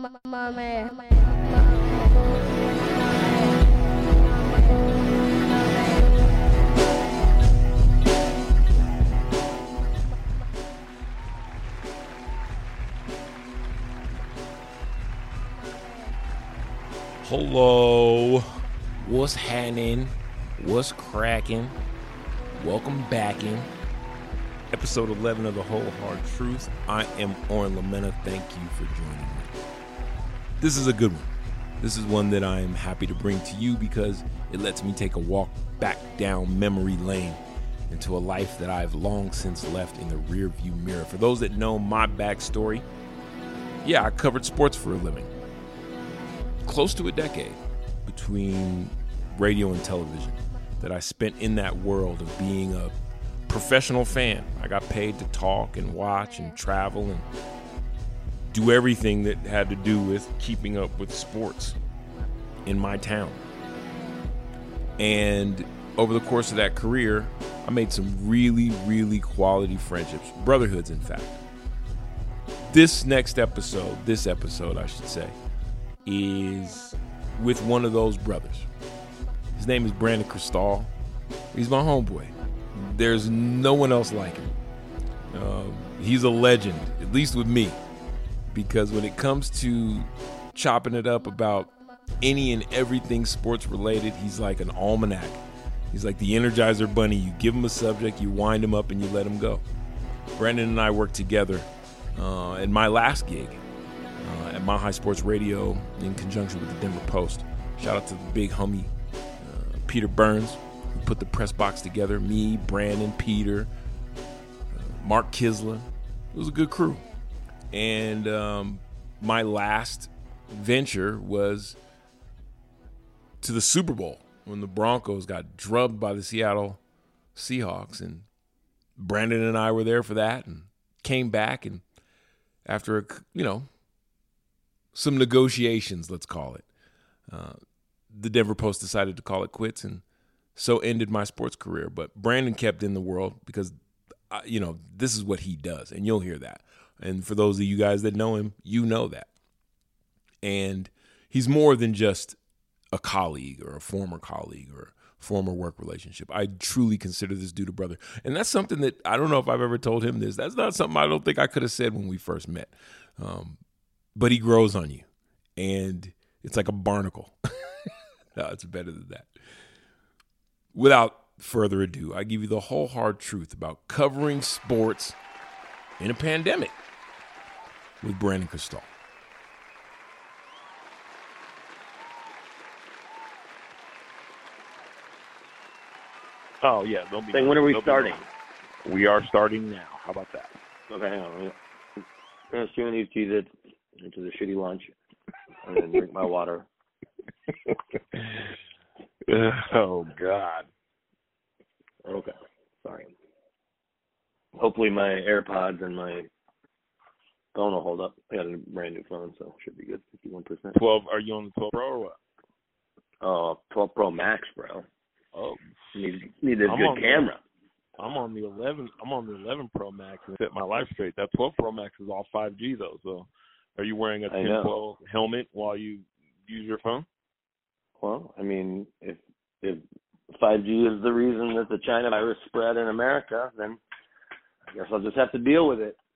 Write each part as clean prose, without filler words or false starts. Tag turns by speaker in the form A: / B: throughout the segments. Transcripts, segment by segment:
A: Hello, what's happening? What's cracking? Welcome back in episode 11 of The Whole Hard Truth. I am Oren Lamena. Thank you for joining me. This is a good one. This is one that I am happy to bring to you because it lets me take a walk back down memory lane into a life that I've long since left in the rearview mirror. For those that know my backstory, I covered sports for a living. Close to a decade between radio and television that I spent in that world of being a professional fan. I got paid to talk and watch and travel and do everything that had to do with keeping up with sports in my town. And over the course of that career, I made some really, really quality friendships, brotherhoods, in fact. This episode, I should say, is with one of those brothers. His name is Brandon Cristal. He's my homeboy. There's no one else like him. He's a legend, at least with me, because when it comes to chopping it up about any and everything sports related, he's like an almanac. He's like the Energizer Bunny. You give him a subject, you wind him up, and you let him go. Brandon and I worked together at my last gig at Mile High Sports Radio in conjunction with the Denver Post. Shout out to the big homie Peter Burns, who put the press box together. Me, Brandon, Peter, Mark Kisler. It was a good crew. And my last venture was to the Super Bowl when the Broncos got drubbed by the Seattle Seahawks. And Brandon and I were there for that and came back. And after, some negotiations, let's call it, the Denver Post decided to call it quits, and so ended my sports career. But Brandon kept in the world because, this is what he does, and you'll hear that. And for those of you guys that know him, you know that. And he's more than just a colleague or a former colleague or former work relationship. I truly consider this dude a brother. And that's something that I don't know if I've ever told him this. That's not something I don't think I could have said when we first met. But he grows on you, and it's like a barnacle. No, it's better than that. Without further ado, I give you the whole hard truth about covering sports in a pandemic with Brandon Cristal.
B: Oh, yeah. Don't be.
C: When are we starting?
B: We are starting now. How about that?
C: Okay, hang on. I'm going to chew these Cheez-Its into the shitty lunch and then drink my water.
B: Oh, God.
C: Okay. Sorry. Hopefully my AirPods and my phone will hold up. I got a brand new phone, so it should be good. 51%.
B: 12. Are you on the 12 Pro or what?
C: 12 Pro Max, bro.
B: Oh.
C: Need a good camera.
B: I'm on the 11. I'm on the 11 Pro Max and set my life straight. That 12 Pro Max is all 5G though. So, are you wearing a tinfoil helmet while you use your phone?
C: Well, I mean, if 5G is the reason that the China virus spread in America, then I guess I'll just have to deal with it.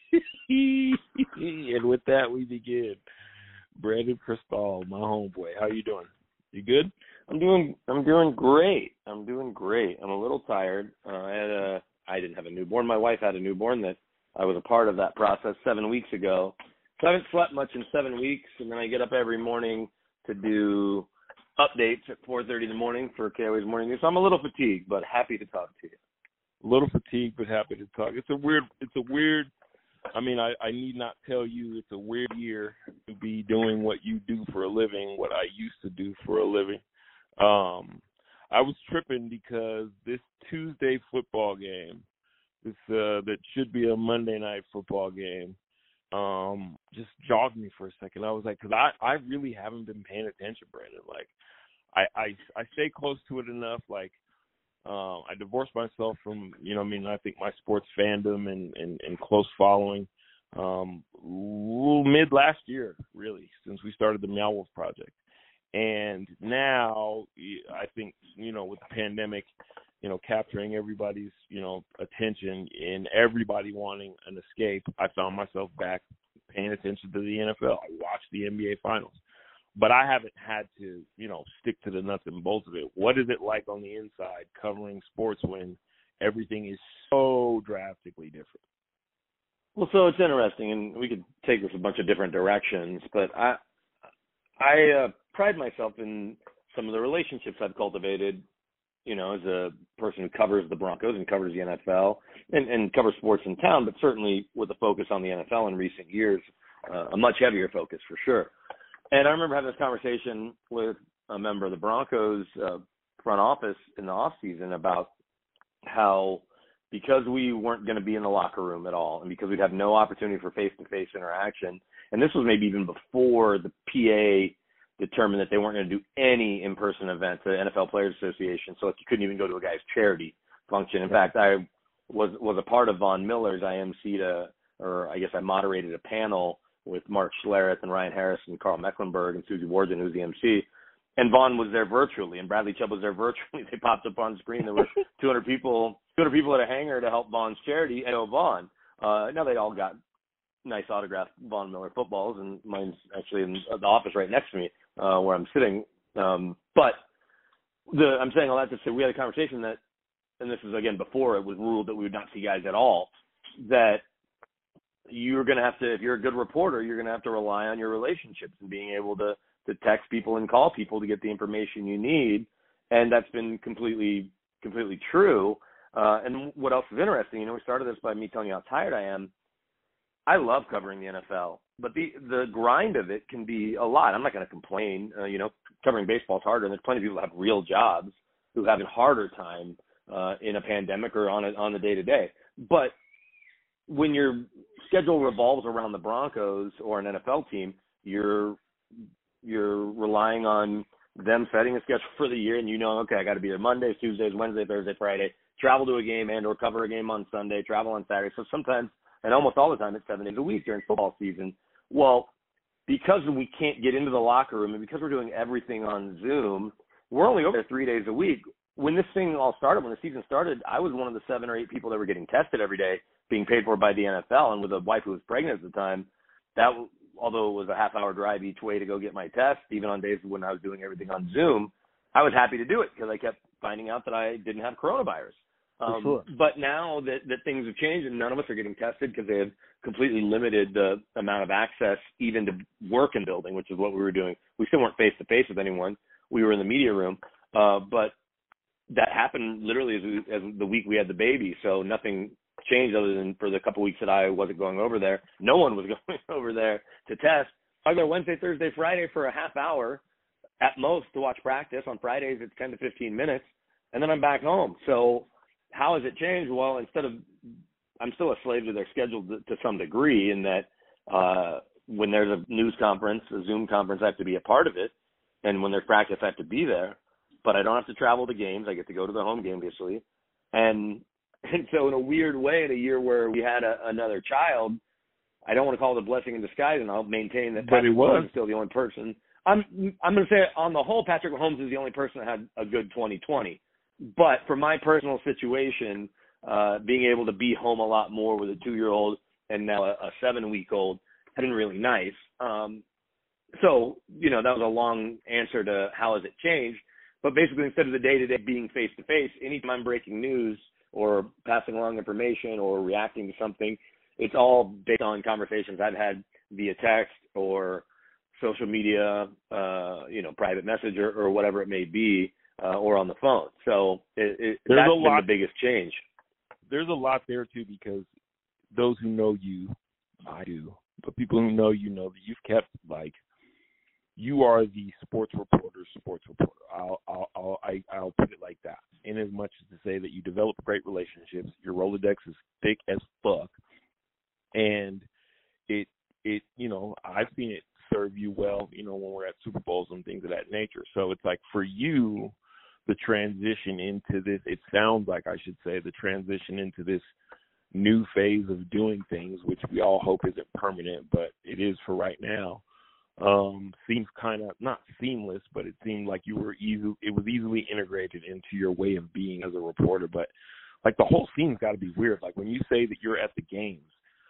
B: And with that, we begin. Brandon Cristal, my homeboy. How you doing? You good?
C: I'm doing great. I'm a little tired. I didn't have a newborn. My wife had a newborn that I was a part of that process 7 weeks ago. So I haven't slept much in 7 weeks, and then I get up every morning to do updates at 4:30 in the morning for KOA's Morning News. So I'm a little fatigued, but happy to talk to you.
B: A little fatigued, but happy to talk. It's a weird. I mean, I need not tell you it's a weird year to be doing what you do for a living, what I used to do for a living. I was tripping because this Tuesday football game, that should be a Monday night football game, just jogged me for a second. I was like, because I really haven't been paying attention, Brandon. Like, I stay close to it enough. Like, I divorced myself from, I think my sports fandom and close following. mid last year, really, since we started the Meow Wolf Project. And now I think, with the pandemic, capturing everybody's, attention and everybody wanting an escape, I found myself back paying attention to the NFL. I watched the NBA Finals. But I haven't had to, stick to the nuts and bolts of it. What is it like on the inside covering sports when everything is so drastically different?
C: Well, so it's interesting, and we could take this a bunch of different directions, but I pride myself in some of the relationships I've cultivated, as a person who covers the Broncos and covers the NFL and covers sports in town, but certainly with a focus on the NFL in recent years, a much heavier focus for sure. And I remember having this conversation with a member of the Broncos front office in the offseason about how, because we weren't going to be in the locker room at all and because we'd have no opportunity for face-to-face interaction, and this was maybe even before the PA determined that they weren't going to do any in-person events, the NFL Players Association, so you couldn't even go to a guy's charity function. In fact, I was a part of Von Miller's. I moderated a panel with Mark Schlereth and Ryan Harris and Carl Mecklenburg and Susie Warden, who's the MC. And Vaughn was there virtually, and Bradley Chubb was there virtually. They popped up on screen. There were 200 people at a hangar to help Vaughn's charity. And Vaughn. Now they all got nice autographed Von Miller footballs, and mine's actually in the office right next to me where I'm sitting. I'm saying all that to say we had a conversation that, and this is again before it was ruled that we would not see guys at all, that you're going to have to, if you're a good reporter, you're going to have to rely on your relationships and being able to text people and call people to get the information you need. And that's been completely true. And what else is interesting, we started this by me telling you how tired I am. I love covering the NFL, but the grind of it can be a lot. I'm not going to complain. Covering baseball is harder, and there's plenty of people who have real jobs who have a harder time in a pandemic or on the day-to-day. But when your schedule revolves around the Broncos or an NFL team, you're relying on them setting a schedule for the year, and okay, I got to be there Mondays, Tuesdays, Wednesday, Thursday, Friday, travel to a game and or cover a game on Sunday, travel on Saturday. So sometimes, and almost all the time, it's 7 days a week during football season. Well, because we can't get into the locker room and because we're doing everything on Zoom, we're only over there 3 days a week. When this thing all started, when the season started, I was one of the 7 or 8 people that were getting tested every day, being paid for by the NFL, and with a wife who was pregnant at the time, that although it was a half-hour drive each way to go get my test, even on days when I was doing everything on Zoom, I was happy to do it because I kept finding out that I didn't have coronavirus.
A: Sure.
C: But now that things have changed and none of us are getting tested because they have completely limited the amount of access even to work in building, which is what we were doing. We still weren't face-to-face with anyone. We were in the media room. But that happened literally as the week we had the baby, so nothing changed other than for the couple weeks that I wasn't going over there. No one was going over there to test. I was there Wednesday, Thursday, Friday for a half hour at most to watch practice. On Fridays, it's 10 to 15 minutes, and then I'm back home. So how has it changed? Well, I'm still a slave to their schedule to some degree in that when there's a news conference, a Zoom conference, I have to be a part of it. And when there's practice, I have to be there. But I don't have to travel to games. I get to go to the home game, obviously. And so in a weird way, in a year where we had another child, I don't want to call it a blessing in disguise, and I'll maintain that Patrick Mahomes is still the only person. I'm going to say on the whole, Patrick Mahomes is the only person that had a good 2020. But for my personal situation, being able to be home a lot more with a 2-year-old and now a 7-week-old has been really nice. So, that was a long answer to how has it changed. But basically, instead of the day-to-day being face-to-face, anytime I'm breaking news or passing along information or reacting to something, it's all based on conversations I've had via text or social media, private message or whatever it may be, or on the phone. So that's been the biggest change.
B: There's a lot there, too, because those who know you, I do, but people who know you know that you've kept, you are the sports reporter's sports reporter. I'll put it like that. In as much as to say that you develop great relationships, your Rolodex is thick as fuck, and it I've seen it serve you well, when we're at Super Bowls and things of that nature. So it's like for you, the transition into this, it sounds like I should say the transition into this new phase of doing things, which we all hope isn't permanent, but it is for right now. Seems kind of not seamless, but it seemed like it was easily integrated into your way of being as a reporter. But like the whole scene's got to be weird. Like when you say that you're at the games,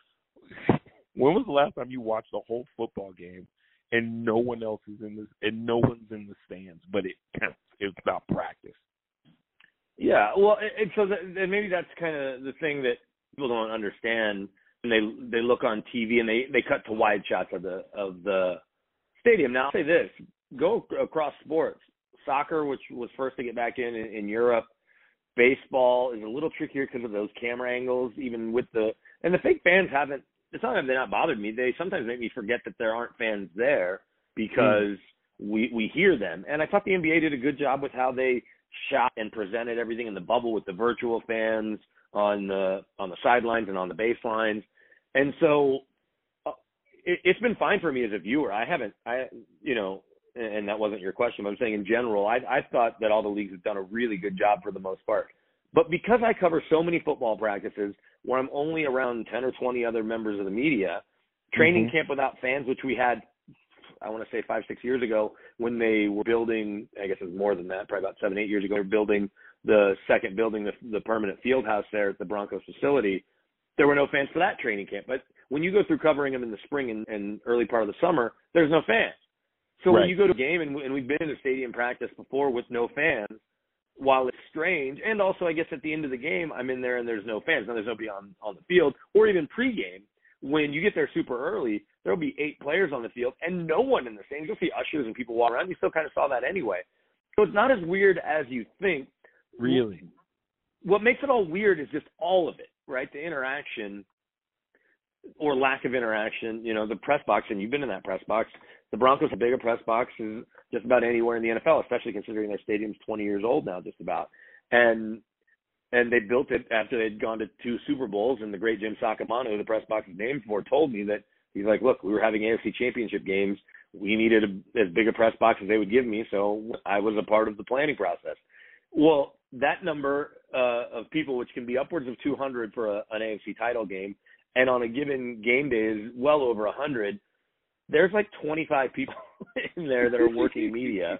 B: when was the last time you watched a whole football game and no one else is in this, and no one's in the stands, but it counts? It's about practice.
C: Yeah, well, and maybe that's kind of the thing that people don't understand. And they look on TV and they cut to wide shots of the stadium. Now I'll say this: go across sports. Soccer, which was first to get back in Europe. Baseball is a little trickier because of those camera angles. Even with the fake fans haven't. It's not that they're not bothered me. They sometimes make me forget that there aren't fans there because we hear them. And I thought the NBA did a good job with how they shot and presented everything in the bubble with the virtual fans on the sidelines and on the baselines. And so it's been fine for me as a viewer. And that wasn't your question, but I'm saying in general, I thought that all the leagues have done a really good job for the most part. But because I cover so many football practices where I'm only around 10 or 20 other members of the media, training camp without fans, which we had, I want to say 5-6 years ago when they were building, I guess it was more than that, probably about 7-8 years ago, they were building the second building, the permanent field house there at the Broncos facility. There were no fans for that training camp. But when you go through covering them in the spring and early part of the summer, there's no fans. So when you go to a game, and we've been in a stadium practice before with no fans, while it's strange, and also I guess at the end of the game, I'm in there and there's no fans. Now there's nobody on the field, or even pregame. When you get there super early, there'll be 8 players on the field and no one in the stands. You'll see ushers and people walk around. You still kind of saw that anyway. So it's not as weird as you think.
B: Really?
C: What makes it all weird is just all of it, right? The interaction or lack of interaction, the press box, and you've been in that press box. The Broncos have a bigger press box than just about anywhere in the NFL, especially considering their stadium's 20 years old now, just about. And they built it after they'd gone to 2 Super Bowls, and the great Jim Saccomano, who the press box is named for, told me that he's like, look, we were having AFC championship games. We needed as big a press box as they would give me, so I was a part of the planning process. Well, that number of people, which can be upwards of 200 for an AFC title game, and on a given game day is well over 100, there's like 25 people in there that are working media.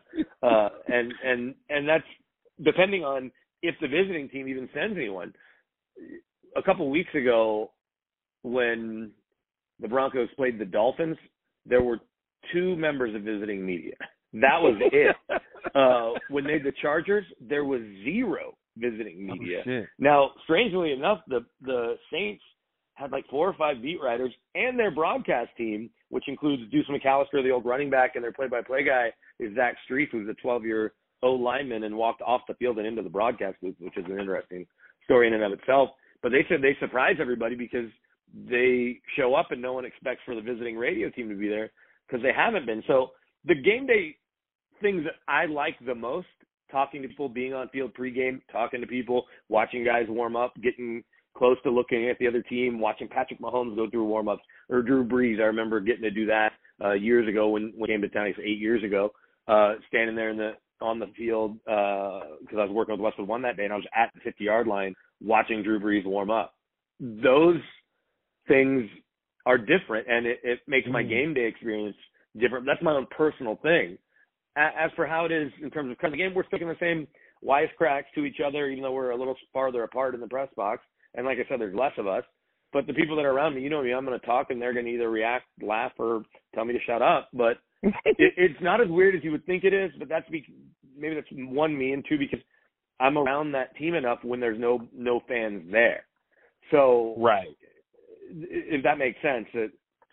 C: And that's depending on if the visiting team even sends anyone. A couple weeks ago, when the Broncos played the Dolphins, there were 2 members of visiting media. That was it. When they did the Chargers, there was 0 visiting media.
B: Oh,
C: now, strangely enough, the Saints had like 4 or 5 beat writers and their broadcast team, which includes Deuce McAllister, the old running back, and their play-by-play guy is Zach Strief, who's a 12-year O-lineman and walked off the field and into the broadcast booth, which is an interesting story in and of itself. But they said they surprise everybody because they show up and no one expects for the visiting radio team to be there because they haven't been. So the game day things that I like the most, talking to people, being on field pregame, talking to people, watching guys warm up, getting close to looking at the other team, watching Patrick Mahomes go through warm-ups, or Drew Brees. I remember getting to do that years ago when he came to town, 8 years ago, standing there on the field because I was working with Westwood One that day, and I was at the 50-yard line watching Drew Brees warm up. Those things are different, and it makes my game day experience different. That's my own personal thing. As for how it is in terms of the game, we're sticking the same wisecracks to each other, even though we're a little farther apart in the press box. And like I said, there's less of us. But the people that are around me, you know me, I'm going to talk, and they're going to either react, laugh, or tell me to shut up. But it's not as weird as you would think it is, but maybe that's one, me, and two, because I'm around that team enough when there's no fans there. So
B: right,
C: if that makes sense, that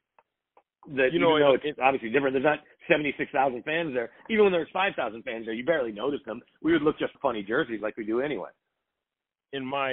C: it's obviously different. There's not 76,000 fans there. Even when there's 5,000 fans there, you barely notice them. We would look just funny jerseys like we do anyway.
B: In my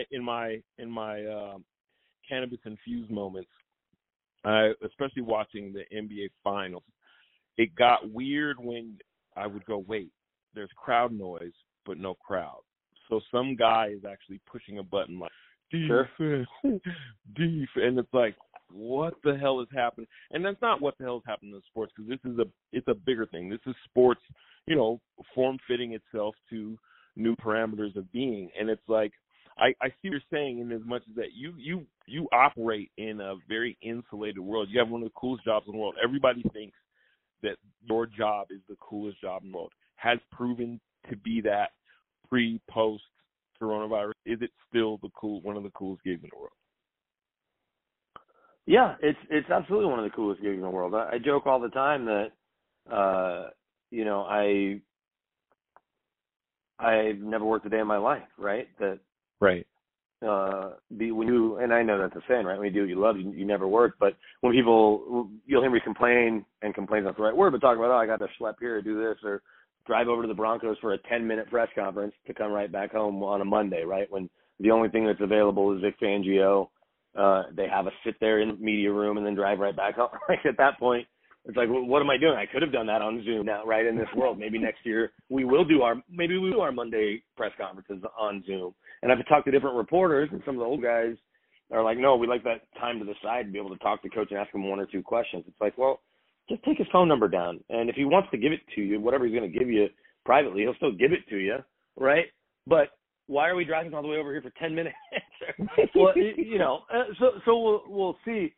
B: cannabis infused moments, especially watching the NBA finals, it got weird when I would go, wait, there's crowd noise but no crowd. So some guy is actually pushing a button like defense, defense, and it's like, what the hell is happening? And that's not what the hell is happening in sports, because it's a bigger thing. This is sports, form fitting itself to new parameters of being. And it's like, I see what you're saying in as much as that you operate in a very insulated world. You have one of the coolest jobs in the world. Everybody thinks that your job is the coolest job in the world. Has proven to be that pre-post coronavirus. Is it still one of the coolest gigs in the world?
C: Yeah, it's absolutely one of the coolest gigs in the world. I joke all the time that I've never worked a day in my life, right? That
B: right.
C: And I know that's a saying, right? When you do what you love, you never work. But when you'll hear me complain, and complain's not the right word, but talk about, I got to schlep here, do this, or drive over to the Broncos for a 10-minute press conference to come right back home on a Monday, right? When the only thing that's available is Vic Fangio. They have us sit there in the media room and then drive right back home. Like at that point, it's like, well, what am I doing? I could have done that on Zoom now, right? In this world, maybe next year we will do our Monday press conferences on Zoom. And I've talked to different reporters, and some of the old guys are like, no, we like that time to the side to be able to talk to coach and ask him one or two questions. It's like, well, just take his phone number down, and if he wants to give it to you, whatever he's going to give you privately, he'll still give it to you, right? But why are we driving all the way over here for 10 minutes? Well, so we'll see.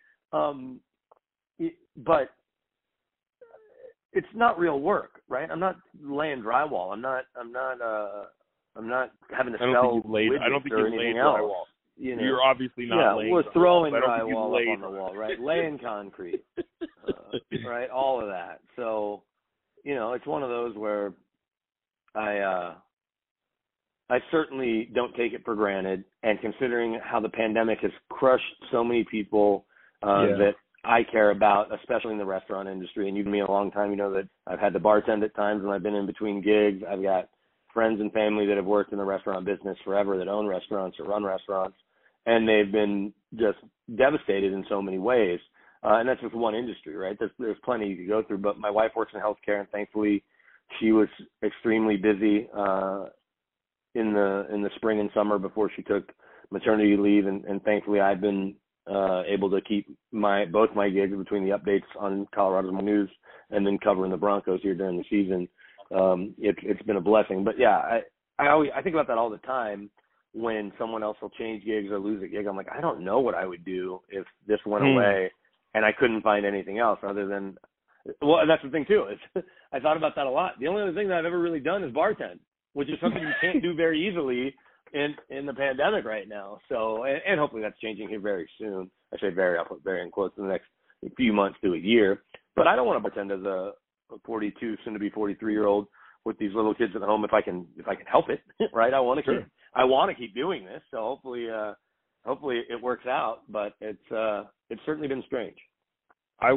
C: But it's not real work, right? I'm not laying drywall. I'm not having to sell widgets
B: I don't think
C: or
B: you're
C: anything
B: laying
C: else.
B: drywall.
C: You know?
B: You're obviously not laying drywall.
C: We're throwing
B: drywall
C: up on the wall, right? Laying concrete, right? All of that. So, it's one of those where I certainly don't take it for granted, and considering how the pandemic has crushed so many people that I care about, especially in the restaurant industry, and you've been me a long time, you know that I've had to bartend at times when I've been in between gigs. I've got friends and family that have worked in the restaurant business forever that own restaurants or run restaurants, and they've been just devastated in so many ways. And that's just one industry, right? There's plenty you could go through, but my wife works in healthcare, and thankfully she was extremely busy in the spring and summer before she took maternity leave, and thankfully I've been able to keep both my gigs between the updates on Colorado's News and then covering the Broncos here during the season. It's been a blessing. But yeah, I think about that all the time when someone else will change gigs or lose a gig. I'm like, I don't know what I would do if this went away and I couldn't find anything else other than, well, that's the thing too. I thought about that a lot. The only other thing that I've ever really done is bartend, which is something you can't do very easily in the pandemic right now. So, and hopefully that's changing here very soon. I say very, I'll put very in quotes, in the next few months to a year. But I don't want to pretend as a 42, soon to be 43-year-old with these little kids at home if I can help it, right? I want to keep doing this. So hopefully it works out. But it's certainly been strange.
B: I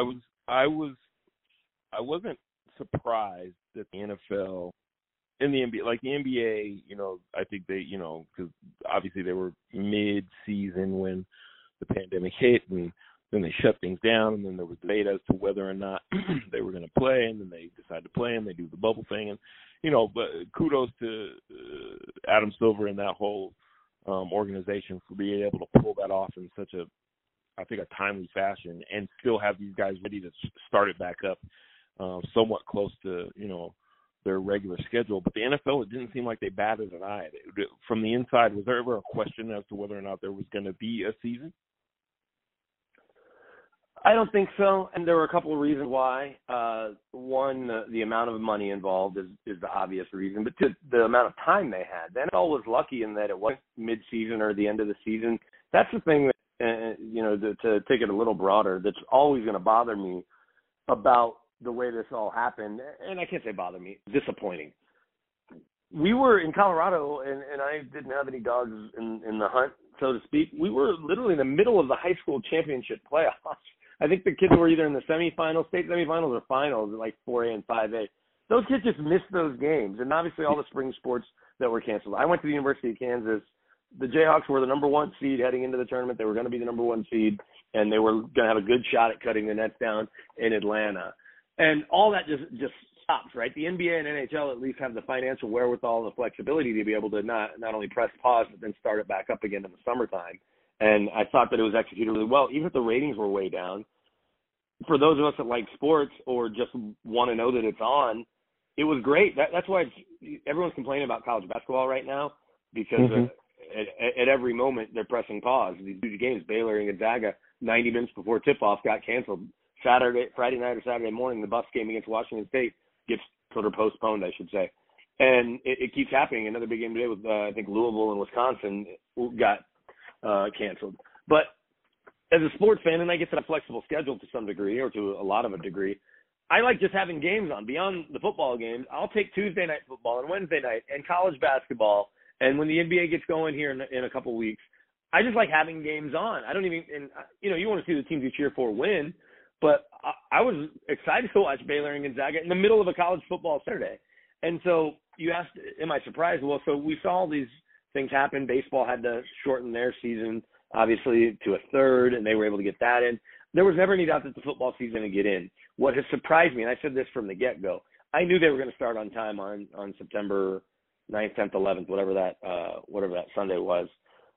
B: wasn't surprised that the NFL in the NBA, like the NBA, I think they, because obviously they were mid-season when the pandemic hit, and then they shut things down, and then there was debate as to whether or not they were going to play, and then they decided to play, and they do the bubble thing, and but kudos to Adam Silver and that whole organization for being able to pull that off in such a timely fashion, and still have these guys ready to start it back up, somewhat close to their regular schedule. But the NFL, it didn't seem like they batted an eye. From the inside, was there ever a question as to whether or not there was going to be a season?
C: I don't think so, and there were a couple of reasons why. One, the amount of money involved is the obvious reason, but the amount of time they had. The NFL was lucky in that it wasn't mid-season or the end of the season. That's the thing that, to take it a little broader, that's always going to bother me about the way this all happened, and I can't say bother me, disappointing. We were in Colorado, and I didn't have any dogs in the hunt, so to speak. We were literally in the middle of the high school championship playoffs. I think the kids were either in the semifinals, state semifinals, or finals, like 4A and 5A. Those kids just missed those games, and obviously all the spring sports that were canceled. I went to the University of Kansas. The Jayhawks were the number one seed heading into the tournament. They were going to be the number one seed, and they were going to have a good shot at cutting the nets down in Atlanta. And all that just stops, right? The NBA and NHL at least have the financial wherewithal and the flexibility to be able to not only press pause, but then start it back up again in the summertime. And I thought that it was executed really well, even if the ratings were way down. For those of us that like sports or just want to know that it's on, it was great. That's why everyone's complaining about college basketball right now, because at every moment they're pressing pause. These huge games, Baylor and Gonzaga, 90 minutes before tip-off got canceled. Friday night or Saturday morning, the Buffs game against Washington State gets sort of postponed, I should say. And it keeps happening. Another big game today with, I think, Louisville and Wisconsin got canceled. But as a sports fan, and I get to a flexible schedule to some degree, or to a lot of a degree, I like just having games on. Beyond the football games, I'll take Tuesday night football and Wednesday night and college basketball. And when the NBA gets going here in a couple weeks, I just like having games on. I don't even, and you want to see the teams you cheer for win, but I was excited to watch Baylor and Gonzaga in the middle of a college football Saturday. And so you asked, am I surprised? Well, so we saw all these things happen. Baseball had to shorten their season, obviously, to a third, and they were able to get that in. There was never any doubt that the football season would get in. What has surprised me, and I said this from the get-go, I knew they were going to start on time on September 9th, 10th, 11th, whatever that Sunday was.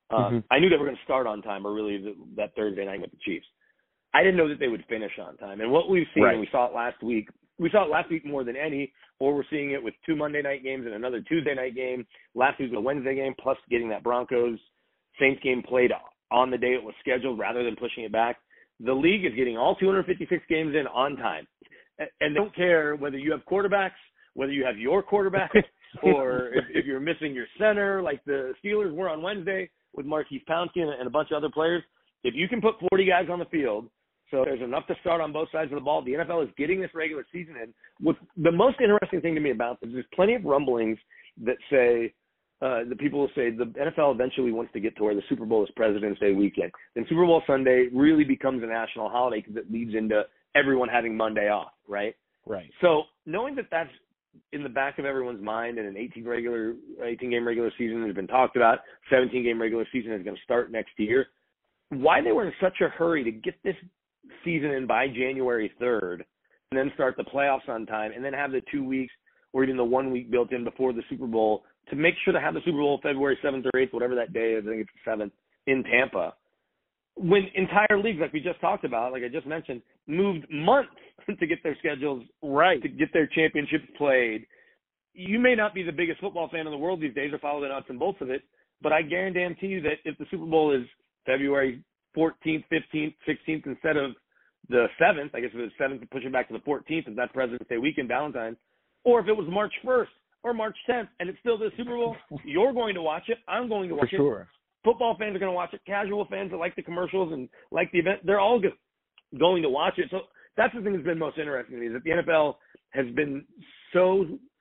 C: I knew they were going to start on time, or really that Thursday night with the Chiefs. I didn't know that they would finish on time. And what we've seen, and we saw it last week more than any, or we're seeing it with 2 Monday night games and another Tuesday night game. Last week was a Wednesday game, plus getting that Broncos-Saints game played on the day it was scheduled rather than pushing it back. The league is getting all 256 games in on time. And they don't care whether you have quarterbacks, whether you have your quarterback, or if you're missing your center, like the Steelers were on Wednesday with Marquise Pouncey and a bunch of other players. If you can put 40 guys on the field, so there's enough to start on both sides of the ball, the NFL is getting this regular season in. What's the most interesting thing to me about this is there's plenty of rumblings that say, the people will say the NFL eventually wants to get to where the Super Bowl is President's Day weekend. Then Super Bowl Sunday really becomes a national holiday because it leads into everyone having Monday off, right?
A: Right.
C: So knowing that that's in the back of everyone's mind, and an 18-game regular season has been talked about, 17-game regular season is going to start next year, why they were in such a hurry to get this season in by January 3rd and then start the playoffs on time and then have the 2 weeks or even the 1 week built in before the Super Bowl to make sure to have the Super Bowl February 7th or 8th, whatever that day is, I think it's the 7th, in Tampa. When entire leagues, like we just talked about, like I just mentioned, moved months to get their schedules right, to get their championships played. You may not be the biggest football fan in the world these days or follow the nuts and bolts of it, but I guarantee you that if the Super Bowl is February 14th, 15th, 16th instead of the 7th, I guess if it was 7th to push it back to the 14th, if that's President's Day weekend, Valentine's, or if it was March 1st or March 10th and it's still the Super Bowl, you're going to watch it. I'm going to watch it. For sure. Football fans are going to watch it. Casual fans that like the commercials and like the event, they're all going to watch it. So that's the thing that's been most interesting to me is that the NFL has been so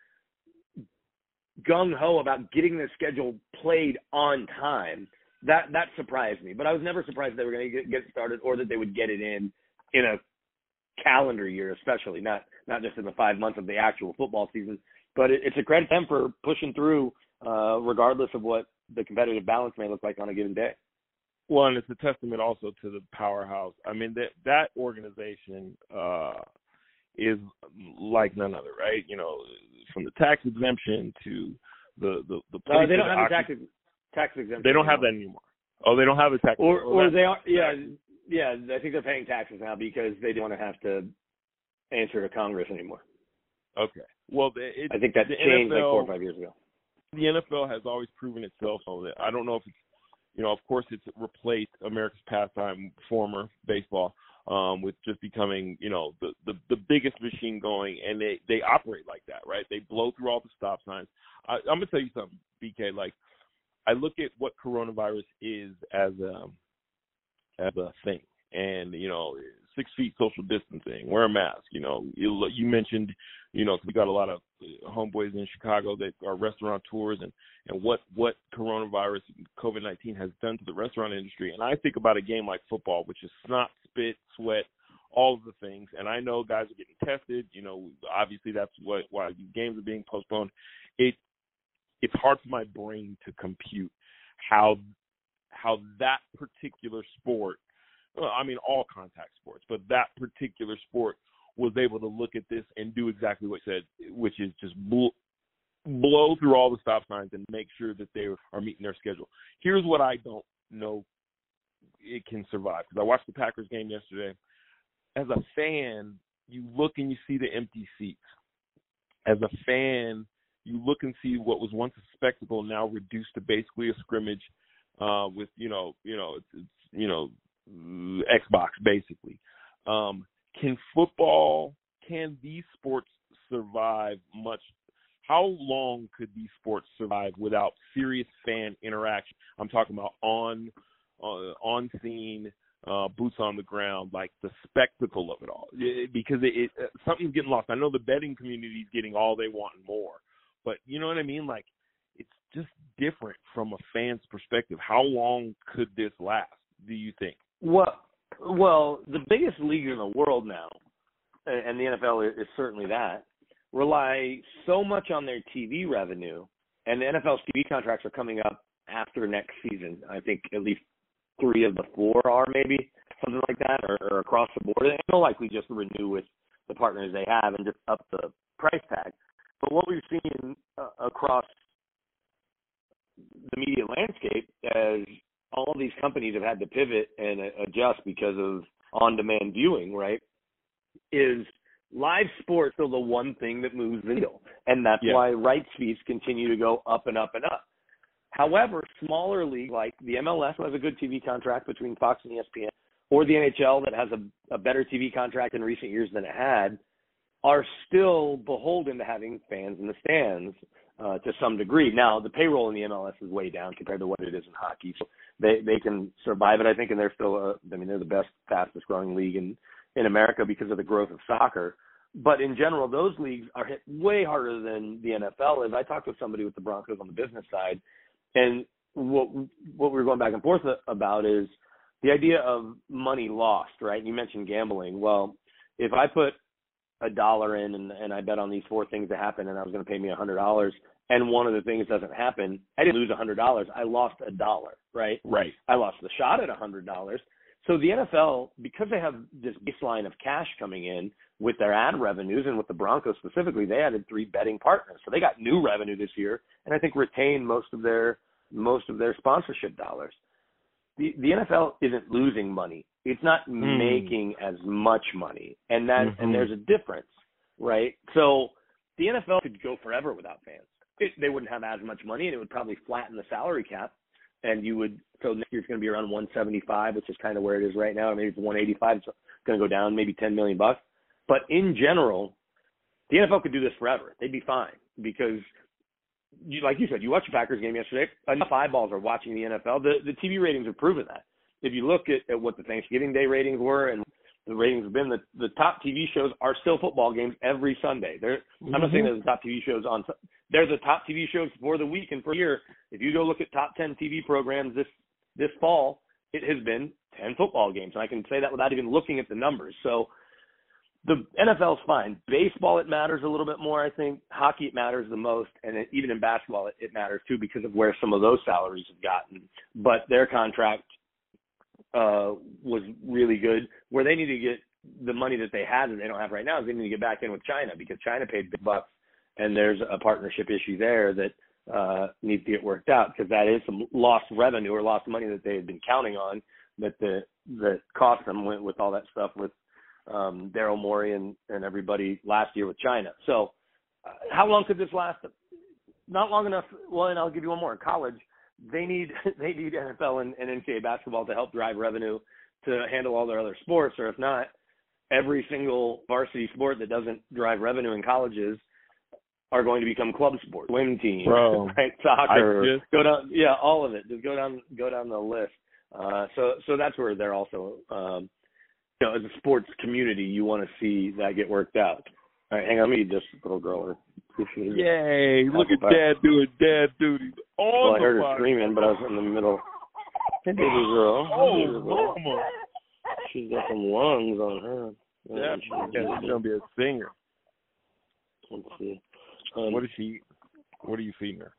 C: gung-ho about getting their schedule played on time. That surprised me. But I was never surprised they were going to get started or that they would get it in a calendar year, especially, not just in the 5 months of the actual football season. But it's a credit to them for pushing through regardless of what the competitive balance may look like on a given day.
B: Well, and it's a testament also to the powerhouse. I mean, that organization is like none other, right? You know, from the tax exemption to the
C: they don't have a tax exemption.
B: They don't have that anymore. Oh, they don't have a tax.
C: Or they are. Yeah. I think they're paying taxes now because they don't want to have to answer to Congress anymore.
B: Okay. Well,
C: I think that changed like 4 or 5 years ago.
B: The NFL has always proven itself. So that I don't know if it's, of course, it's replaced America's pastime, former baseball, with just becoming, the biggest machine going, and they operate like that, right? They blow through all the stop signs. I'm gonna tell you something, BK. Like, I look at what coronavirus is as a thing, and 6 feet social distancing, wear a mask. You mentioned, because we got a lot of homeboys in Chicago that are restaurateurs, and what coronavirus, COVID-19 has done to the restaurant industry. And I think about a game like football, which is snot, spit, sweat, all of the things. And I know guys are getting tested. Obviously that's why these games are being postponed. It's hard for my brain to compute how that particular sport, I mean, all contact sports, but that particular sport was able to look at this and do exactly what you said, which is just blow through all the stop signs and make sure that they are meeting their schedule. Here's what I don't know it can survive, because I watched the Packers game yesterday. As a fan, you look and you see the empty seats. As a fan, you look and see what was once a spectacle now reduced to basically a scrimmage with Xbox basically. Can these sports survive much? How long could these sports survive without serious fan interaction? I'm talking about on scene, boots on the ground, like the spectacle of it all. Because something's getting lost. I know the betting community is getting all they want and more, but you know what I mean? Like, it's just different from a fan's perspective. How long could this last, do you think?
C: Well, the biggest league in the world now, and the NFL is certainly that, rely so much on their TV revenue, and the NFL's TV contracts are coming up after next season. I think at least 3 of the 4 are, maybe something like that, or across the board. And they'll likely just renew with the partners they have and just up the price tag. But what we've seen across the media landscape, as all of these companies have had to pivot and adjust because of on-demand viewing, right, is live sports are the one thing that moves the needle. And that's why rights fees continue to go up and up and up. However, smaller leagues like the MLS has a good TV contract between Fox and ESPN, or the NHL that has a better TV contract in recent years than it had, are still beholden to having fans in the stands to some degree. Now, the payroll in the MLS is way down compared to what it is in hockey, so they can survive it, I think, and they're still they're the best, fastest growing league in America because of the growth of soccer. But in general, those leagues are hit way harder than the NFL is. I talked with somebody with the Broncos on the business side, and what we were going back and forth about is the idea of money lost, right? You mentioned gambling. Well, if I put $1 in and I bet on these 4 things to happen and I was going to pay me $100, and one of the things doesn't happen, I didn't lose $100. I lost $1, right?
B: Right.
C: I lost the shot at $100. So the NFL, because they have this baseline of cash coming in with their ad revenues, and with the Broncos specifically, they added 3 betting partners. So they got new revenue this year, and I think retained most of their sponsorship dollars. The NFL isn't losing money. It's not making as much money. And and there's a difference, right? So the NFL could go forever without fans. They wouldn't have as much money, and it would probably flatten the salary cap. And so next year it's going to be around 175, which is kind of where it is right now. Or maybe it's 185. It's going to go down maybe $10 million. But in general, the NFL could do this forever. They'd be fine because, like you said, you watched the Packers game yesterday. Enough eyeballs are watching the NFL. The TV ratings have proven that. If you look at what the Thanksgiving Day ratings were and the ratings have been, the top TV shows are still football games every Sunday. I'm not saying they're the top TV shows they're the top TV shows for the week and for the year. If you go look at top 10 TV programs this fall, it has been 10 football games. And I can say that without even looking at the numbers. So the NFL's fine. Baseball, it matters a little bit more, I think. Hockey, it matters the most. And even in basketball, it matters too because of where some of those salaries have gotten. But their contract was really good. Where they need to get the money that they had that they don't have right now is they need to get back in with China because China paid big bucks. And there's a partnership issue there that needs to get worked out because that is some lost revenue or lost money that they had been counting on that cost them with all that stuff with Daryl Morey and everybody last year with China. So how long could this last? Not long enough. Well, and I'll give you one more. In college, they need NFL and NCAA basketball to help drive revenue to handle all their other sports, or if not, every single varsity sport that doesn't drive revenue in colleges are going to become club sports, swim team, right? Soccer, go down, all of it. Just go down the list. So that's where they're also, as a sports community, you want to see that get worked out. All right, hang on, let me this little girl.
B: Yay! Look at Dad doing dad duties.
C: Well, I heard her screaming, but I was in the middle. Hey, baby girl.
B: Oh, mama.
C: She's got some lungs on her.
B: Yeah, she's gonna be a singer.
C: Let's see.
B: What are you feeding her?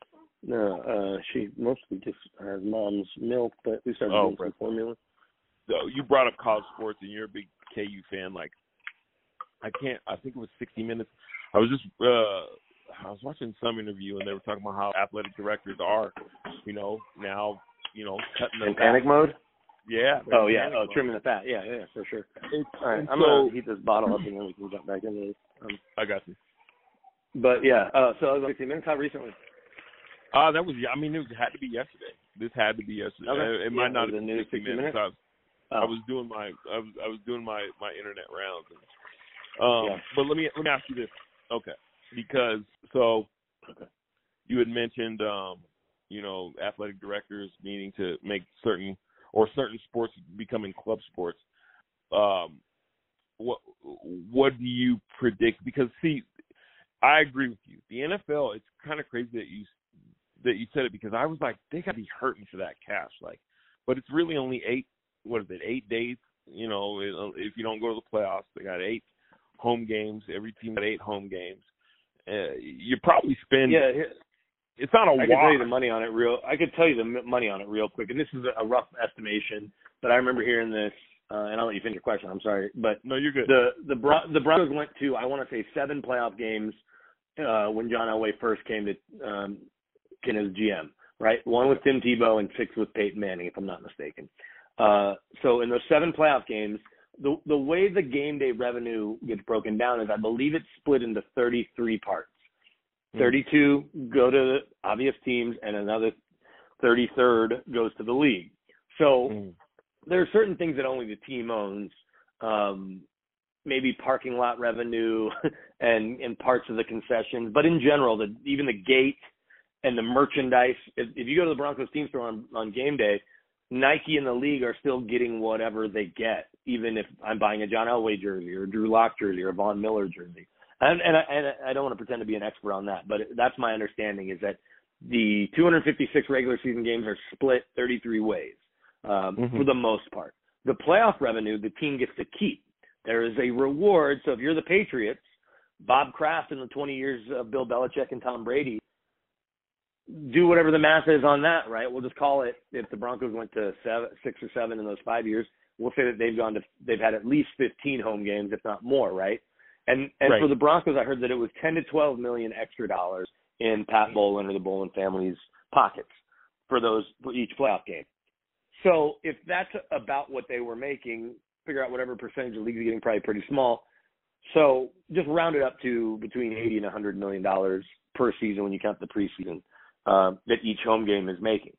C: No, she mostly just has mom's milk, but we started doing some formula.
B: So you brought up college sports, and you're a big KU fan. Like, I think it was 60 Minutes. I was watching some interview, and they were talking about how athletic directors are, now, cutting
C: in panic mode.
B: Yeah.
C: Oh yeah. Oh, trimming the fat. Yeah, for sure. All right, I'm gonna heat this bottle up, and then we can jump back into this.
B: I got you.
C: But yeah, so I was like 15 minutes. How recently?
B: That was, I mean, it had to be yesterday. This had to be yesterday.
C: Okay.
B: It might not have
C: the
B: been
C: new
B: 60 minutes.
C: minutes.
B: I was doing my internet rounds. And, But let me ask you this. Okay. Because you had mentioned athletic directors needing to make certain sports becoming club sports. What do you predict? Because see, I agree with you. The NFL, it's kind of crazy that you said it, because I was like, they got to be hurting for that cash. Like, but it's really only 8 days. You know, if you don't go to the playoffs, they got 8 home games. Every team got 8 home games. You probably spend.
C: Yeah.
B: It's not a wash.
C: I could tell you the money on it real quick, and this is a rough estimation, but I remember hearing this, and I'll let you finish your question. I'm sorry, but
B: no, you're good.
C: The Broncos went to, I want to say, 7 playoff games when John Elway first came to as GM, right? 1 with Tim Tebow and 6 with Peyton Manning, if I'm not mistaken. So in those 7 playoff games, the way the game day revenue gets broken down is, I believe it's split into 33 parts. 32 go to the obvious teams, and another 33rd goes to the league. So there are certain things that only the team owns, maybe parking lot revenue and parts of the concessions. But in general, even the gate and the merchandise, if you go to the Broncos team store on game day, Nike and the league are still getting whatever they get, even if I'm buying a John Elway jersey or a Drew Lock jersey or a Von Miller jersey. And I don't want to pretend to be an expert on that, but that's my understanding, is that the 256 regular season games are split 33 ways for the most part. The playoff revenue, the team gets to keep. There is a reward. So if you're the Patriots, Bob Kraft in the 20 years of Bill Belichick and Tom Brady, do whatever the math is on that, right? We'll just call it, if the Broncos went to 6 or 7 in those 5 years, we'll say that they've had at least 15 home games, if not more, right? And right. For the Broncos, I heard that it was $10 to $12 million extra dollars in Pat Bowlen or the Bowlen family's pockets for each playoff game. So if that's about what they were making, figure out whatever percentage the league's getting, probably pretty small. So just round it up to between $80 and $100 million per season when you count the preseason that each home game is making.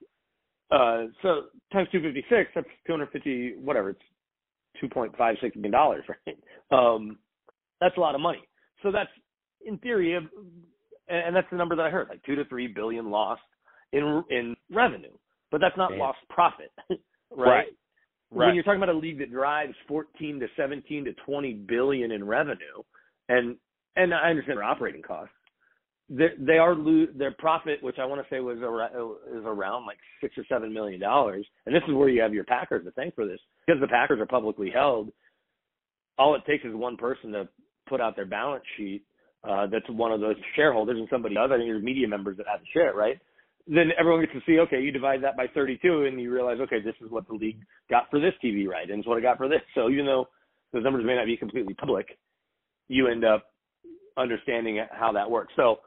C: So times 256, that's 250, whatever, it's $2.56 million, right? That's a lot of money. So that's, in theory, and that's the number that I heard, like $2 to $3 billion lost in revenue. But that's not lost profit, right? When you're talking about a league that drives 14 to 17 to 20 billion in revenue, and I understand their operating costs, they are their profit, which I want to say is around like $6 or $7 million. And this is where you have your Packers to thank for this, because the Packers are publicly held. All it takes is one person to put out their balance sheet that's one of those shareholders, and somebody else, I think there's media members that have to share it, right? Then everyone gets to see, okay, you divide that by 32, and you realize, okay, this is what the league got for this TV right, and it's what it got for this. So even though those numbers may not be completely public, you end up understanding how that works. So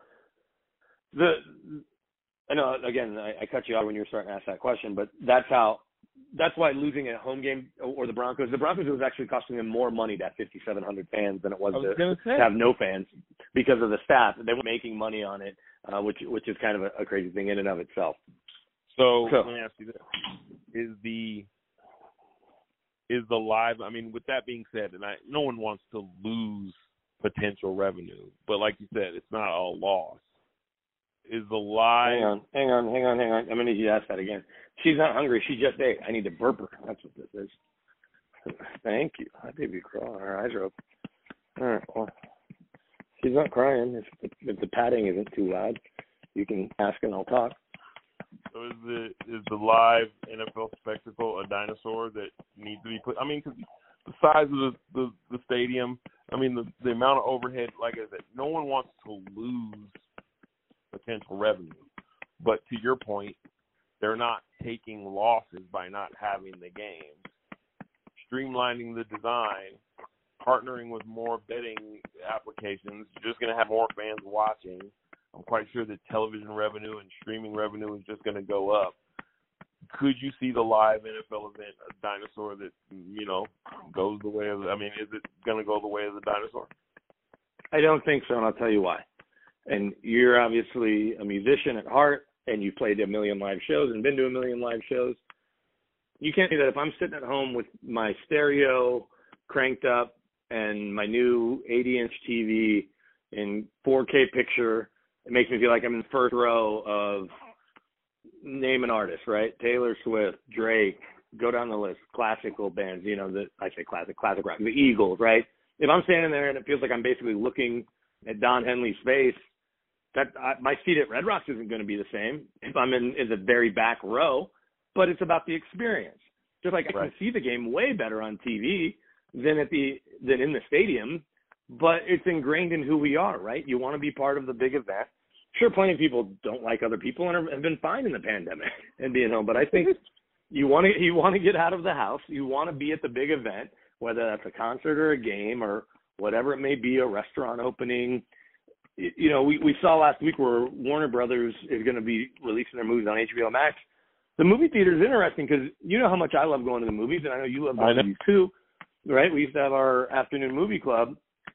C: I know, again, I cut you off when you were starting to ask that question, but that's why losing a home game or the Broncos was actually costing them more money to have 5,700 fans than it was to have no fans, because of the staff. They were making money on it, which is kind of a crazy thing in and of itself.
B: So let me ask you this: is the live? I mean, with that being said, and no one wants to lose potential revenue, but like you said, it's not all loss. Is the live?
C: Hang on. I'm gonna need you to ask that again. She's not hungry. She just ate. I need to burp her. That's what this is. Thank you. My baby crying. Her eyes are open. All right. Well, she's not crying. If the patting isn't too loud, you can ask and I'll talk.
B: So is the live NFL spectacle a dinosaur that needs to be put? I mean, because the size of the stadium. I mean, the amount of overhead. Like I said, no one wants to lose potential revenue, but to your point, they're not taking losses by not having the games. Streamlining the design, partnering with more betting applications, you're just going to have more fans watching. I'm quite sure that television revenue and streaming revenue is just going to go up. Could you see the live NFL event a dinosaur that, goes the way of is it going to go the way of the dinosaur?
C: I don't think so, and I'll tell you why. and you're obviously a musician at heart, and you played a million live shows and been to a million live shows. You can't do that if I'm sitting at home with my stereo cranked up and my new 80-inch TV in 4K picture. It makes me feel like I'm in the first row of name an artist, right? Taylor Swift, Drake, go down the list, classical bands, I say classic rock, the Eagles, right? If I'm standing there and it feels like I'm basically looking at Don Henley's face, my seat at Red Rocks isn't going to be the same if I'm in the very back row, but it's about the experience. Just like I can see the game way better on TV than in the stadium, but it's ingrained in who we are, right? You want to be part of the big event. Sure, plenty of people don't like other people and have been fine in the pandemic and being home, but I think you want to get out of the house. You want to be at the big event, whether that's a concert or a game or whatever it may be, a restaurant opening. We saw last week where Warner Brothers is going to be releasing their movies on HBO Max. The movie theater is interesting because you know how much I love going to the movies, and I know you love going to movies too, right? We used to have our afternoon movie club,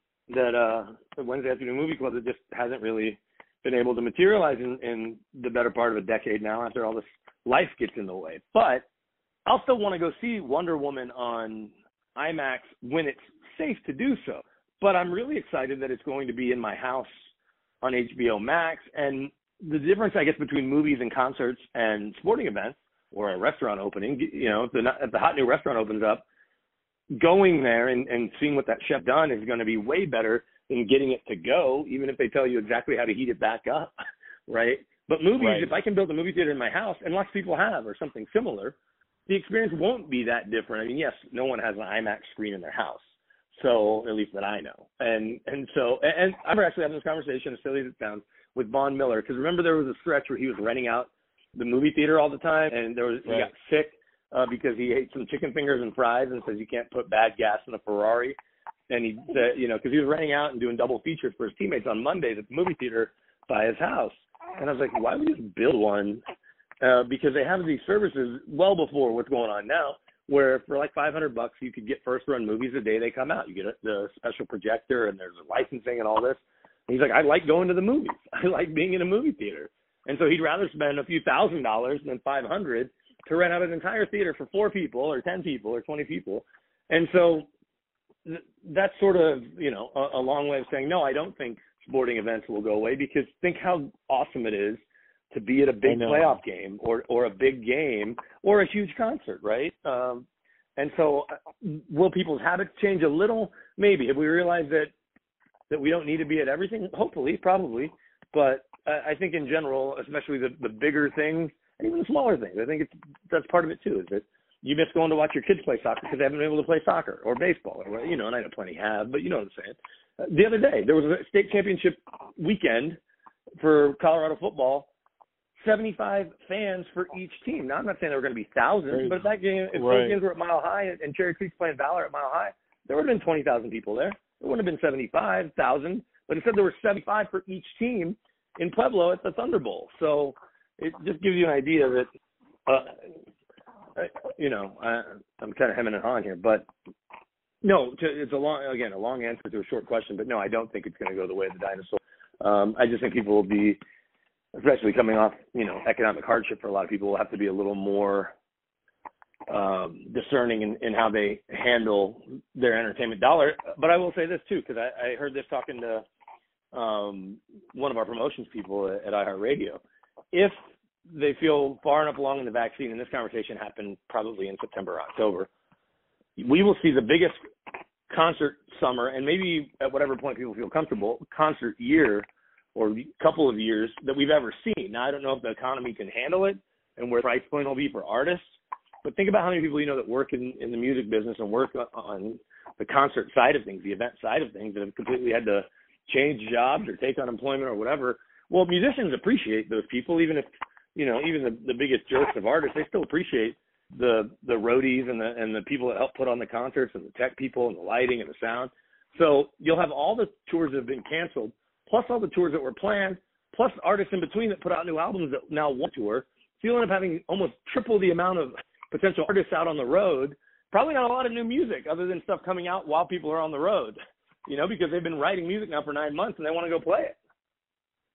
C: the Wednesday afternoon movie club that just hasn't really been able to materialize in the better part of a decade now after all this life gets in the way. But I'll still want to go see Wonder Woman on IMAX when it's safe to do so. But I'm really excited that it's going to be in my house on HBO Max. And the difference, I guess, between movies and concerts and sporting events or a restaurant opening, if the hot new restaurant opens up, going there and seeing what that chef done is going to be way better than getting it to go, even if they tell you exactly how to heat it back up, right? But movies, if I can build a movie theater in my house, and lots of people have or something similar, the experience won't be that different. I mean, yes, no one has an IMAX screen in their house. So, at least that I know. And I'm actually having this conversation, as silly as it sounds, with Von Miller, because remember there was a stretch where he was renting out the movie theater all the time, and he got sick because he ate some chicken fingers and fries and says you can't put bad gas in a Ferrari. And he said, because he was renting out and doing double features for his teammates on Mondays at the movie theater by his house. And I was like, why would you just build one? Because they have these services well before what's going on now, where for like $500 you could get first run movies the day they come out. You get the special projector and there's licensing and all this. And he's like, I like going to the movies. I like being in a movie theater. And so he'd rather spend a few $1,000s than $500 to rent out an entire theater for 4 people or 10 people or 20 people. And so that's sort of, a long way of saying, no, I don't think sporting events will go away, because think how awesome it is to be at a big playoff game or a big game or a huge concert, right? And so will people's habits change a little? Maybe. If we realize that we don't need to be at everything, hopefully, probably. But I think in general, especially the bigger things and even the smaller things, I think that's part of it too, is that you miss going to watch your kids play soccer because they haven't been able to play soccer or baseball, or and I know plenty have, but you know what I'm saying. The other day, there was a state championship weekend for Colorado football, 75 fans for each team. Now, I'm not saying there were going to be thousands, but if that game, if those games were at Mile High and Cherry Creek's playing Valor at Mile High, there would have been 20,000 people there. There wouldn't have been 75,000, but instead there were 75 for each team in Pueblo at the Thunder Bowl. So it just gives you an idea that, I'm kind of hemming and hawing here, but no, it's a long answer to a short question, but no, I don't think it's going to go the way of the dinosaur. I just think people will be, especially coming off, economic hardship for a lot of people, will have to be a little more discerning in how they handle their entertainment dollar. But I will say this too, because I heard this talking to one of our promotions people at iHeartRadio. If they feel far enough along in the vaccine, and this conversation happened probably in September or October, we will see the biggest concert summer, and maybe at whatever point people feel comfortable, concert year or couple of years that we've ever seen. Now, I don't know if the economy can handle it and where the price point will be for artists, but think about how many people that work in the music business and work on the concert side of things, the event side of things, that have completely had to change jobs or take unemployment or whatever. Well, musicians appreciate those people, even if, even the biggest jerks of artists, they still appreciate the roadies and the people that help put on the concerts and the tech people and the lighting and the sound. So you'll have all the tours that have been canceled, plus all the tours that were planned, plus artists in between that put out new albums that now want to tour. So you'll end up having almost triple the amount of potential artists out on the road. Probably not a lot of new music other than stuff coming out while people are on the road, because they've been writing music now for 9 months and they want to go play it.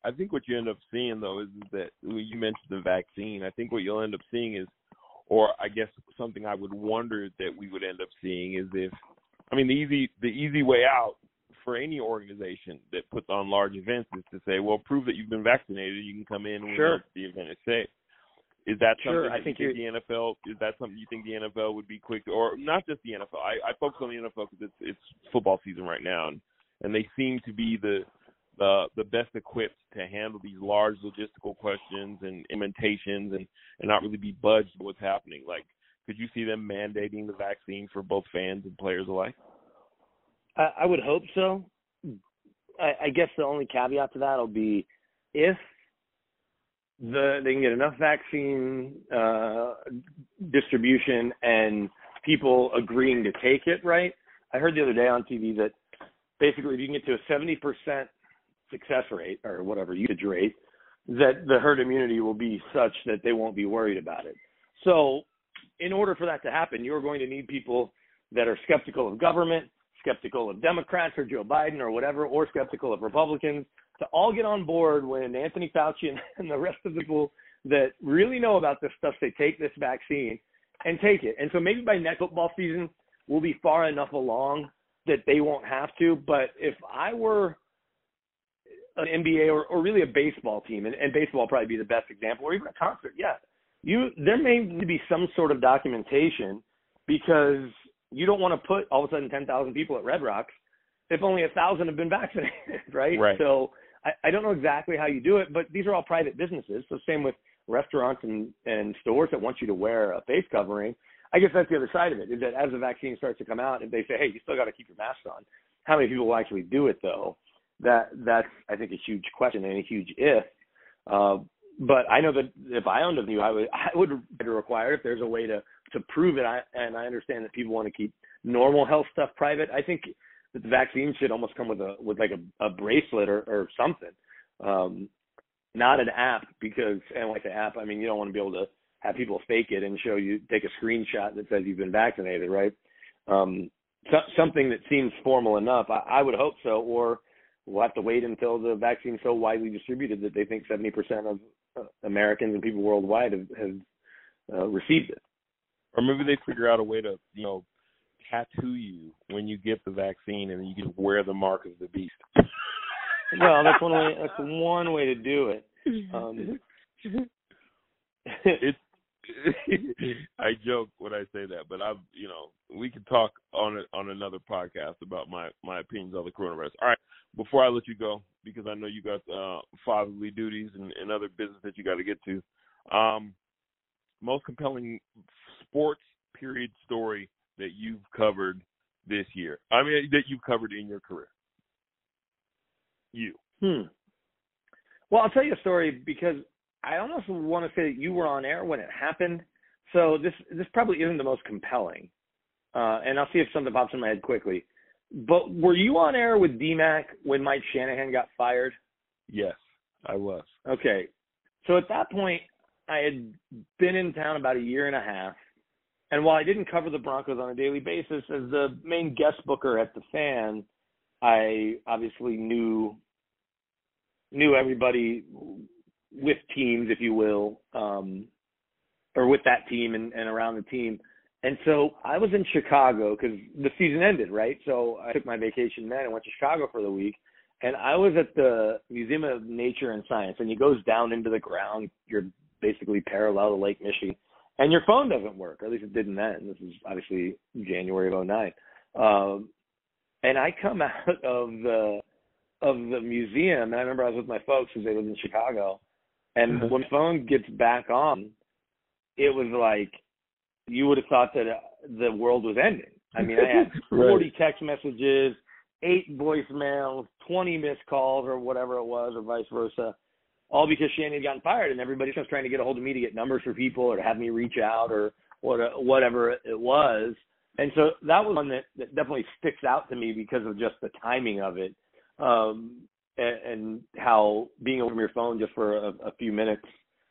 B: I think what you end up seeing, though, is that when you mentioned the vaccine, I think what you'll end up seeing is, or I guess something I would wonder that we would end up seeing is if, I mean, the easy way out for any organization that puts on large events is to say, well, prove that you've been vaccinated, you can come in when the event is safe. Is that something
C: I think
B: the NFL, is that something you think the NFL would be quick to, or not just the NFL? I focus on the NFL because it's football season right now, and they seem to be the best equipped to handle these large logistical questions and implementations and not really be budged by what's happening. Like, could you see them mandating the vaccine for both fans and players alike?
C: I would hope so. I guess the only caveat to that will be if they can get enough vaccine distribution and people agreeing to take it, right? I heard the other day on TV that basically if you can get to a 70% success rate or whatever usage rate, that the herd immunity will be such that they won't be worried about it. So in order for that to happen, you're going to need people that are skeptical of government, skeptical of Democrats or Joe Biden or whatever, or skeptical of Republicans, to all get on board when Anthony Fauci and the rest of the people that really know about this stuff, they take this vaccine and take it. And so maybe by next football season, we'll be far enough along that they won't have to. But if I were an NBA or really a baseball team, and baseball will probably be the best example, or even a concert, there may need to be some sort of documentation, because you don't want to put all of a sudden 10,000 people at Red Rocks if only 1,000 have been vaccinated, right? So I don't know exactly how you do it, but these are all private businesses. So same with restaurants and stores that want you to wear a face covering. I guess that's the other side of it, is that as the vaccine starts to come out, if they say, hey, you still got to keep your mask on, how many people will actually do it, though? That's, I think, a huge question and a huge if. But I know that if I owned a venue, I would require, if there's a way to prove it. And I understand that people want to keep normal health stuff private. I think that the vaccine should almost come with like a bracelet or something, not an app, because, and like the app, I mean, you don't want to be able to have people fake it and take a screenshot that says you've been vaccinated, right? Something that seems formal enough. I would hope so, or we'll have to wait until the vaccine's so widely distributed that they think 70% of Americans and people worldwide have received it.
B: Or maybe they figure out a way to, tattoo you when you get the vaccine, and you can wear the mark of the beast.
C: Well, that's one way. That's one way to do it.
B: I joke when I say that, but we can talk on another podcast about my opinions on the coronavirus. All right, before I let you go, because I know you got fatherly duties and other business that you got to get to. Most compelling sports period story that you've covered this year. I mean, that you've covered in your career.
C: Well, I'll tell you a story, because I almost want to say that you were on air when it happened. So this probably isn't the most compelling. And I'll see if something pops in my head quickly. But were you on air with DMAC when Mike Shanahan got fired?
B: Yes, I was.
C: Okay. So at that point, I had been in town about a year and a half. And while I didn't cover the Broncos on a daily basis, as the main guest booker at the Fan, I obviously knew everybody with teams, if you will, or with that team and around the team. And so I was in Chicago because the season ended, right? So I took my vacation then and went to Chicago for the week. And I was at the Museum of Nature and Science, and it goes down into the ground. You're basically parallel to Lake Michigan. And your phone doesn't work, or at least it didn't then. This is obviously January of 2009. And I come out of the museum, and I remember I was with my folks because they lived in Chicago. And when the phone gets back on, it was like you would have thought that the world was ending. I mean, I had 40 text messages, 8 voicemails, 20 missed calls, or whatever it was, or vice versa, all because Shanahan had gotten fired, and everybody was trying to get a hold of me to get numbers for people or to have me reach out or whatever it was. And so that was one that definitely sticks out to me because of just the timing of it, and how being away from your phone just for a few minutes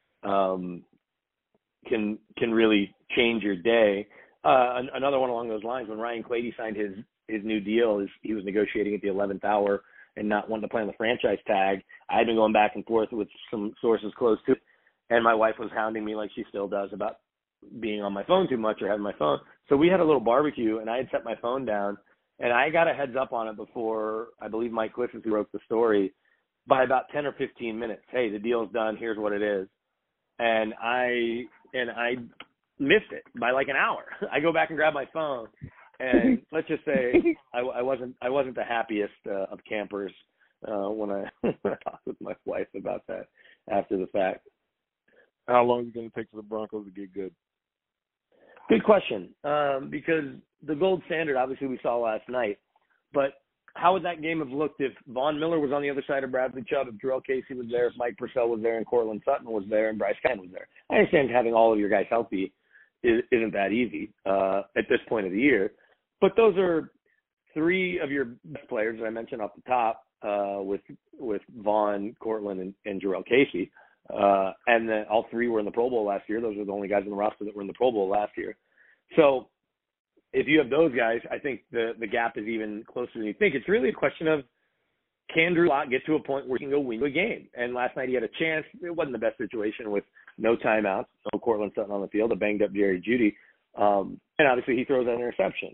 C: can really change your day. Another one along those lines, when Ryan Clady signed his new deal, he was negotiating at the 11th hour, and not wanting to play on the franchise tag. I had been going back and forth with some sources close to it, and my wife was hounding me like she still does about being on my phone too much or having my phone. So we had a little barbecue, and I had set my phone down, and I got a heads up on it before, I believe Mike Clifford, who wrote the story, by about 10 or 15 minutes. Hey, the deal's done. Here's what it is. And I missed it by like an hour. I go back and grab my phone, and let's just say I wasn't the happiest of campers when I talked with my wife about that after the fact.
B: How long is it going to take for the Broncos to get good?
C: Good question, because the gold standard, obviously, we saw last night. But how would that game have looked if Von Miller was on the other side of Bradley Chubb, if Jarrell Casey was there, if Mike Purcell was there, and Cortland Sutton was there, and Bryce Callahan was there? I understand having all of your guys healthy isn't that easy at this point of the year. But those are three of your best players that I mentioned off the top with Vaughn, Cortland, and Jarrell Casey. And then all three were in the Pro Bowl last year. Those are the only guys in the roster that were in the Pro Bowl last year. So if you have those guys, I think the gap is even closer than you think. It's really a question of, can Drew Lock get to a point where he can go win a game? And last night he had a chance. It wasn't the best situation with no timeouts, no Cortland Sutton on the field, a banged-up Jerry Jeudy. And obviously he throws that interception.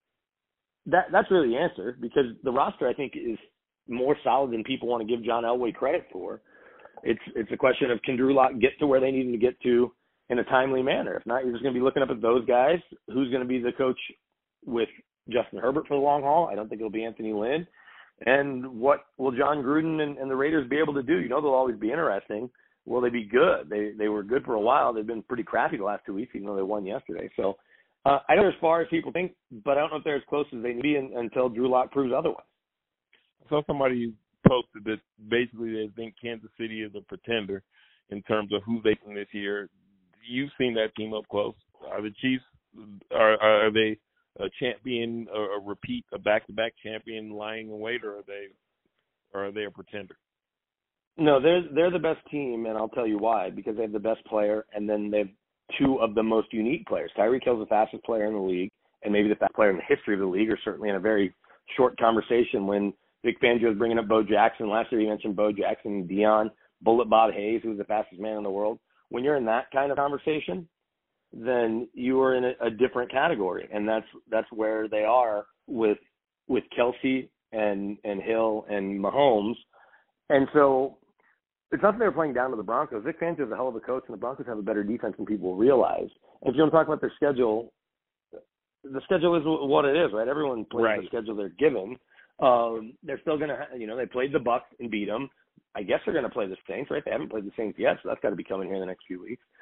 C: That's really the answer, because the roster, I think, is more solid than people want to give John Elway credit for. It's a question of, can Drew Lock get to where they need him to get to in a timely manner? If not, you're just going to be looking up at those guys. Who's going to be the coach with Justin Herbert for the long haul? I don't think it'll be Anthony Lynn. And what will John Gruden and the Raiders be able to do? They'll always be interesting. Will they be good? They were good for a while. They've been pretty crappy the last 2 weeks, even though they won yesterday. So I don't know as far as people think, but I don't know if they're as close as they need to be until Drew Lock proves otherwise.
B: So somebody posted that basically they think Kansas City is a pretender in terms of who they think this year. You've seen that team up close. Are the Chiefs, are they a champion, a back-to-back champion lying in wait, or are they a pretender?
C: No, they're the best team, and I'll tell you why. Because they have the best player, and then they have two of the most unique players. Tyreek Hill's the fastest player in the league, and maybe the fastest player in the history of the league, or certainly in a very short conversation when Vic Fangio was bringing up Bo Jackson. Last year he mentioned Bo Jackson, Deion, Bullet Bob Hayes, who was the fastest man in the world. When you're in that kind of conversation, then you are in a different category, and that's where they are with Kelsey and Hill and Mahomes. And so it's not that they're playing down to the Broncos. Vic Fangio is a hell of a coach, and the Broncos have a better defense than people realize. And if you want to talk about their schedule, the schedule is what it is, right? Everyone plays
B: right.
C: The schedule they're given. They're still going to, they played the Bucs and beat them. I guess they're going to play the Saints, right? They haven't played the Saints yet, so that's got to be coming here in the next few weeks.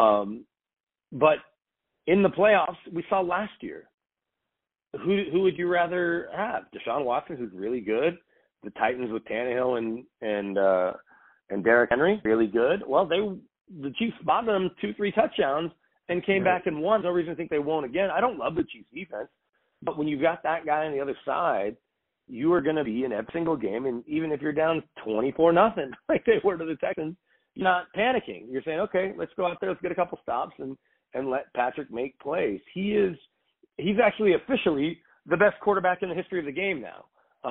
C: But in the playoffs, we saw last year, who would you rather have? Deshaun Watson, who's really good. The Titans with Tannehill and Derrick Henry, really good. Well, the Chiefs spotted them 2-3 touchdowns and came back and won. No reason to think they won't again. I don't love the Chiefs defense, but when you've got that guy on the other side, you are going to be in every single game, and even if you're down 24-0, like they were to the Texans, you're not panicking. You're saying, okay, let's go out there, let's get a couple stops, and let Patrick make plays. He's actually officially the best quarterback in the history of the game now.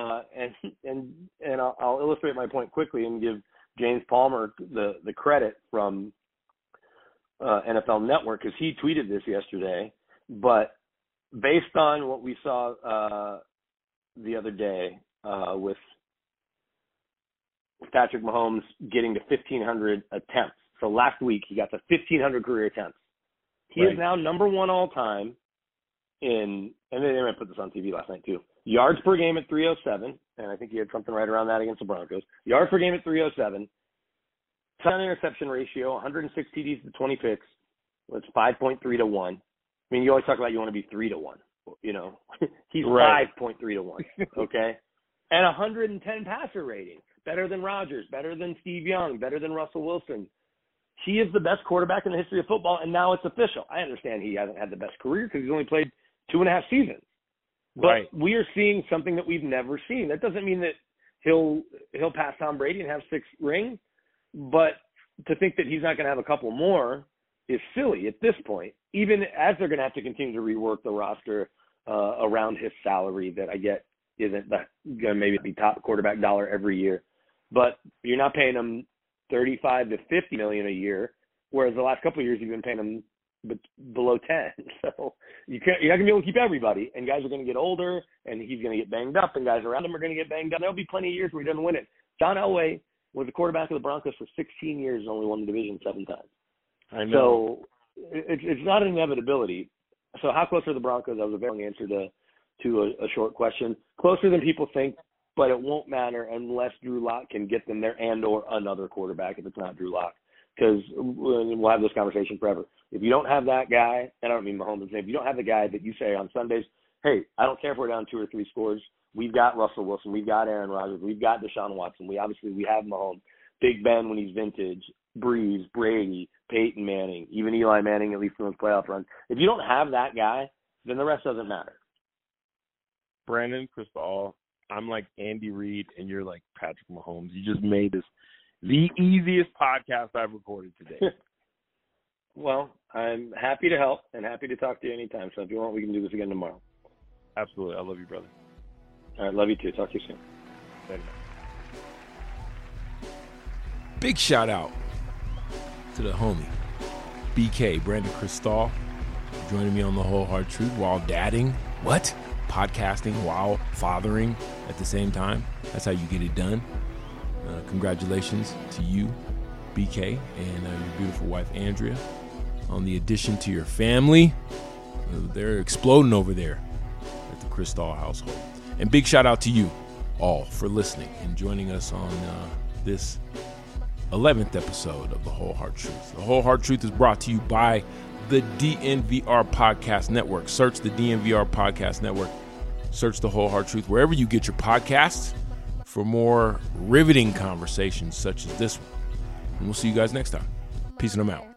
C: And I'll illustrate my point quickly and give James Palmer the credit from NFL Network, because he tweeted this yesterday. But based on what we saw the other day with Patrick Mahomes getting to 1,500 attempts. So last week he got to 1,500 career attempts. He is now number one all time in, and they might put this on TV last night too, yards per game at 307, and I think he had something right around that against the Broncos. Yards per game at 307. Touchdown interception ratio, 106 TDs to 20 picks. That's 5.3 to 1. I mean, you always talk about you want to be 3 to 1. He's 5.3 to 1, okay? And 110 passer rating, better than Rodgers, better than Steve Young, better than Russell Wilson. He is the best quarterback in the history of football, and now it's official. I understand he hasn't had the best career because he's only played 2.5 seasons. But we are seeing something that we've never seen. That doesn't mean that he'll pass Tom Brady and have 6 rings, but to think that he's not going to have a couple more is silly at this point, even as they're going to have to continue to rework the roster around his salary that I get isn't going to maybe be top quarterback dollar every year. But you're not paying him $35 to $50 million a year, whereas the last couple of years you've been paying him below 10. So you're not going to be able to keep everybody, and guys are going to get older, and he's going to get banged up, and guys around him are going to get banged up. There'll be plenty of years where he doesn't win it. John Elway was the quarterback of the Broncos for 16 years and only won the division 7 times.
B: I know.
C: So it's not an inevitability. So how close are the Broncos? That was a very long answer to a short question. Closer than people think, but it won't matter unless Drew Lock can get them there and or another quarterback if it's not Drew Lock. Because we'll have this conversation forever. If you don't have that guy, and I don't mean Mahomes' name, if you don't have the guy that you say on Sundays, hey, I don't care if we're down 2 or 3 scores. We've got Russell Wilson. We've got Aaron Rodgers. We've got Deshaun Watson. We have Mahomes. Big Ben when he's vintage. Breeze, Brady, Peyton Manning, even Eli Manning, at least in those playoff runs. If you don't have that guy, then the rest doesn't matter.
B: Brandon Cristal, I'm like Andy Reid, and you're like Patrick Mahomes. You just made this the easiest podcast I've recorded today.
C: Well, I'm happy to help and happy to talk to you anytime. So if you want, we can do this again tomorrow.
B: Absolutely. I love you, brother.
C: All right, love you too. Talk to you soon.
B: Thank you.
A: Big shout out to the homie, BK, Brandon Cristal, joining me on The Whole Hard Truth while dadding. What? Podcasting while fathering at the same time. That's how you get it done. Congratulations to you, BK, and your beautiful wife, Andrea, on the addition to your family. They're exploding over there at the Cristal household. And big shout out to you all for listening and joining us on this 11th episode of The Whole Hard Truth. The Whole Hard Truth is brought to you by the DNVR Podcast Network. Search the DNVR Podcast Network. Search The Whole Hard Truth wherever you get your podcasts for more riveting conversations such as this one. And we'll see you guys next time. Peace and I'm out.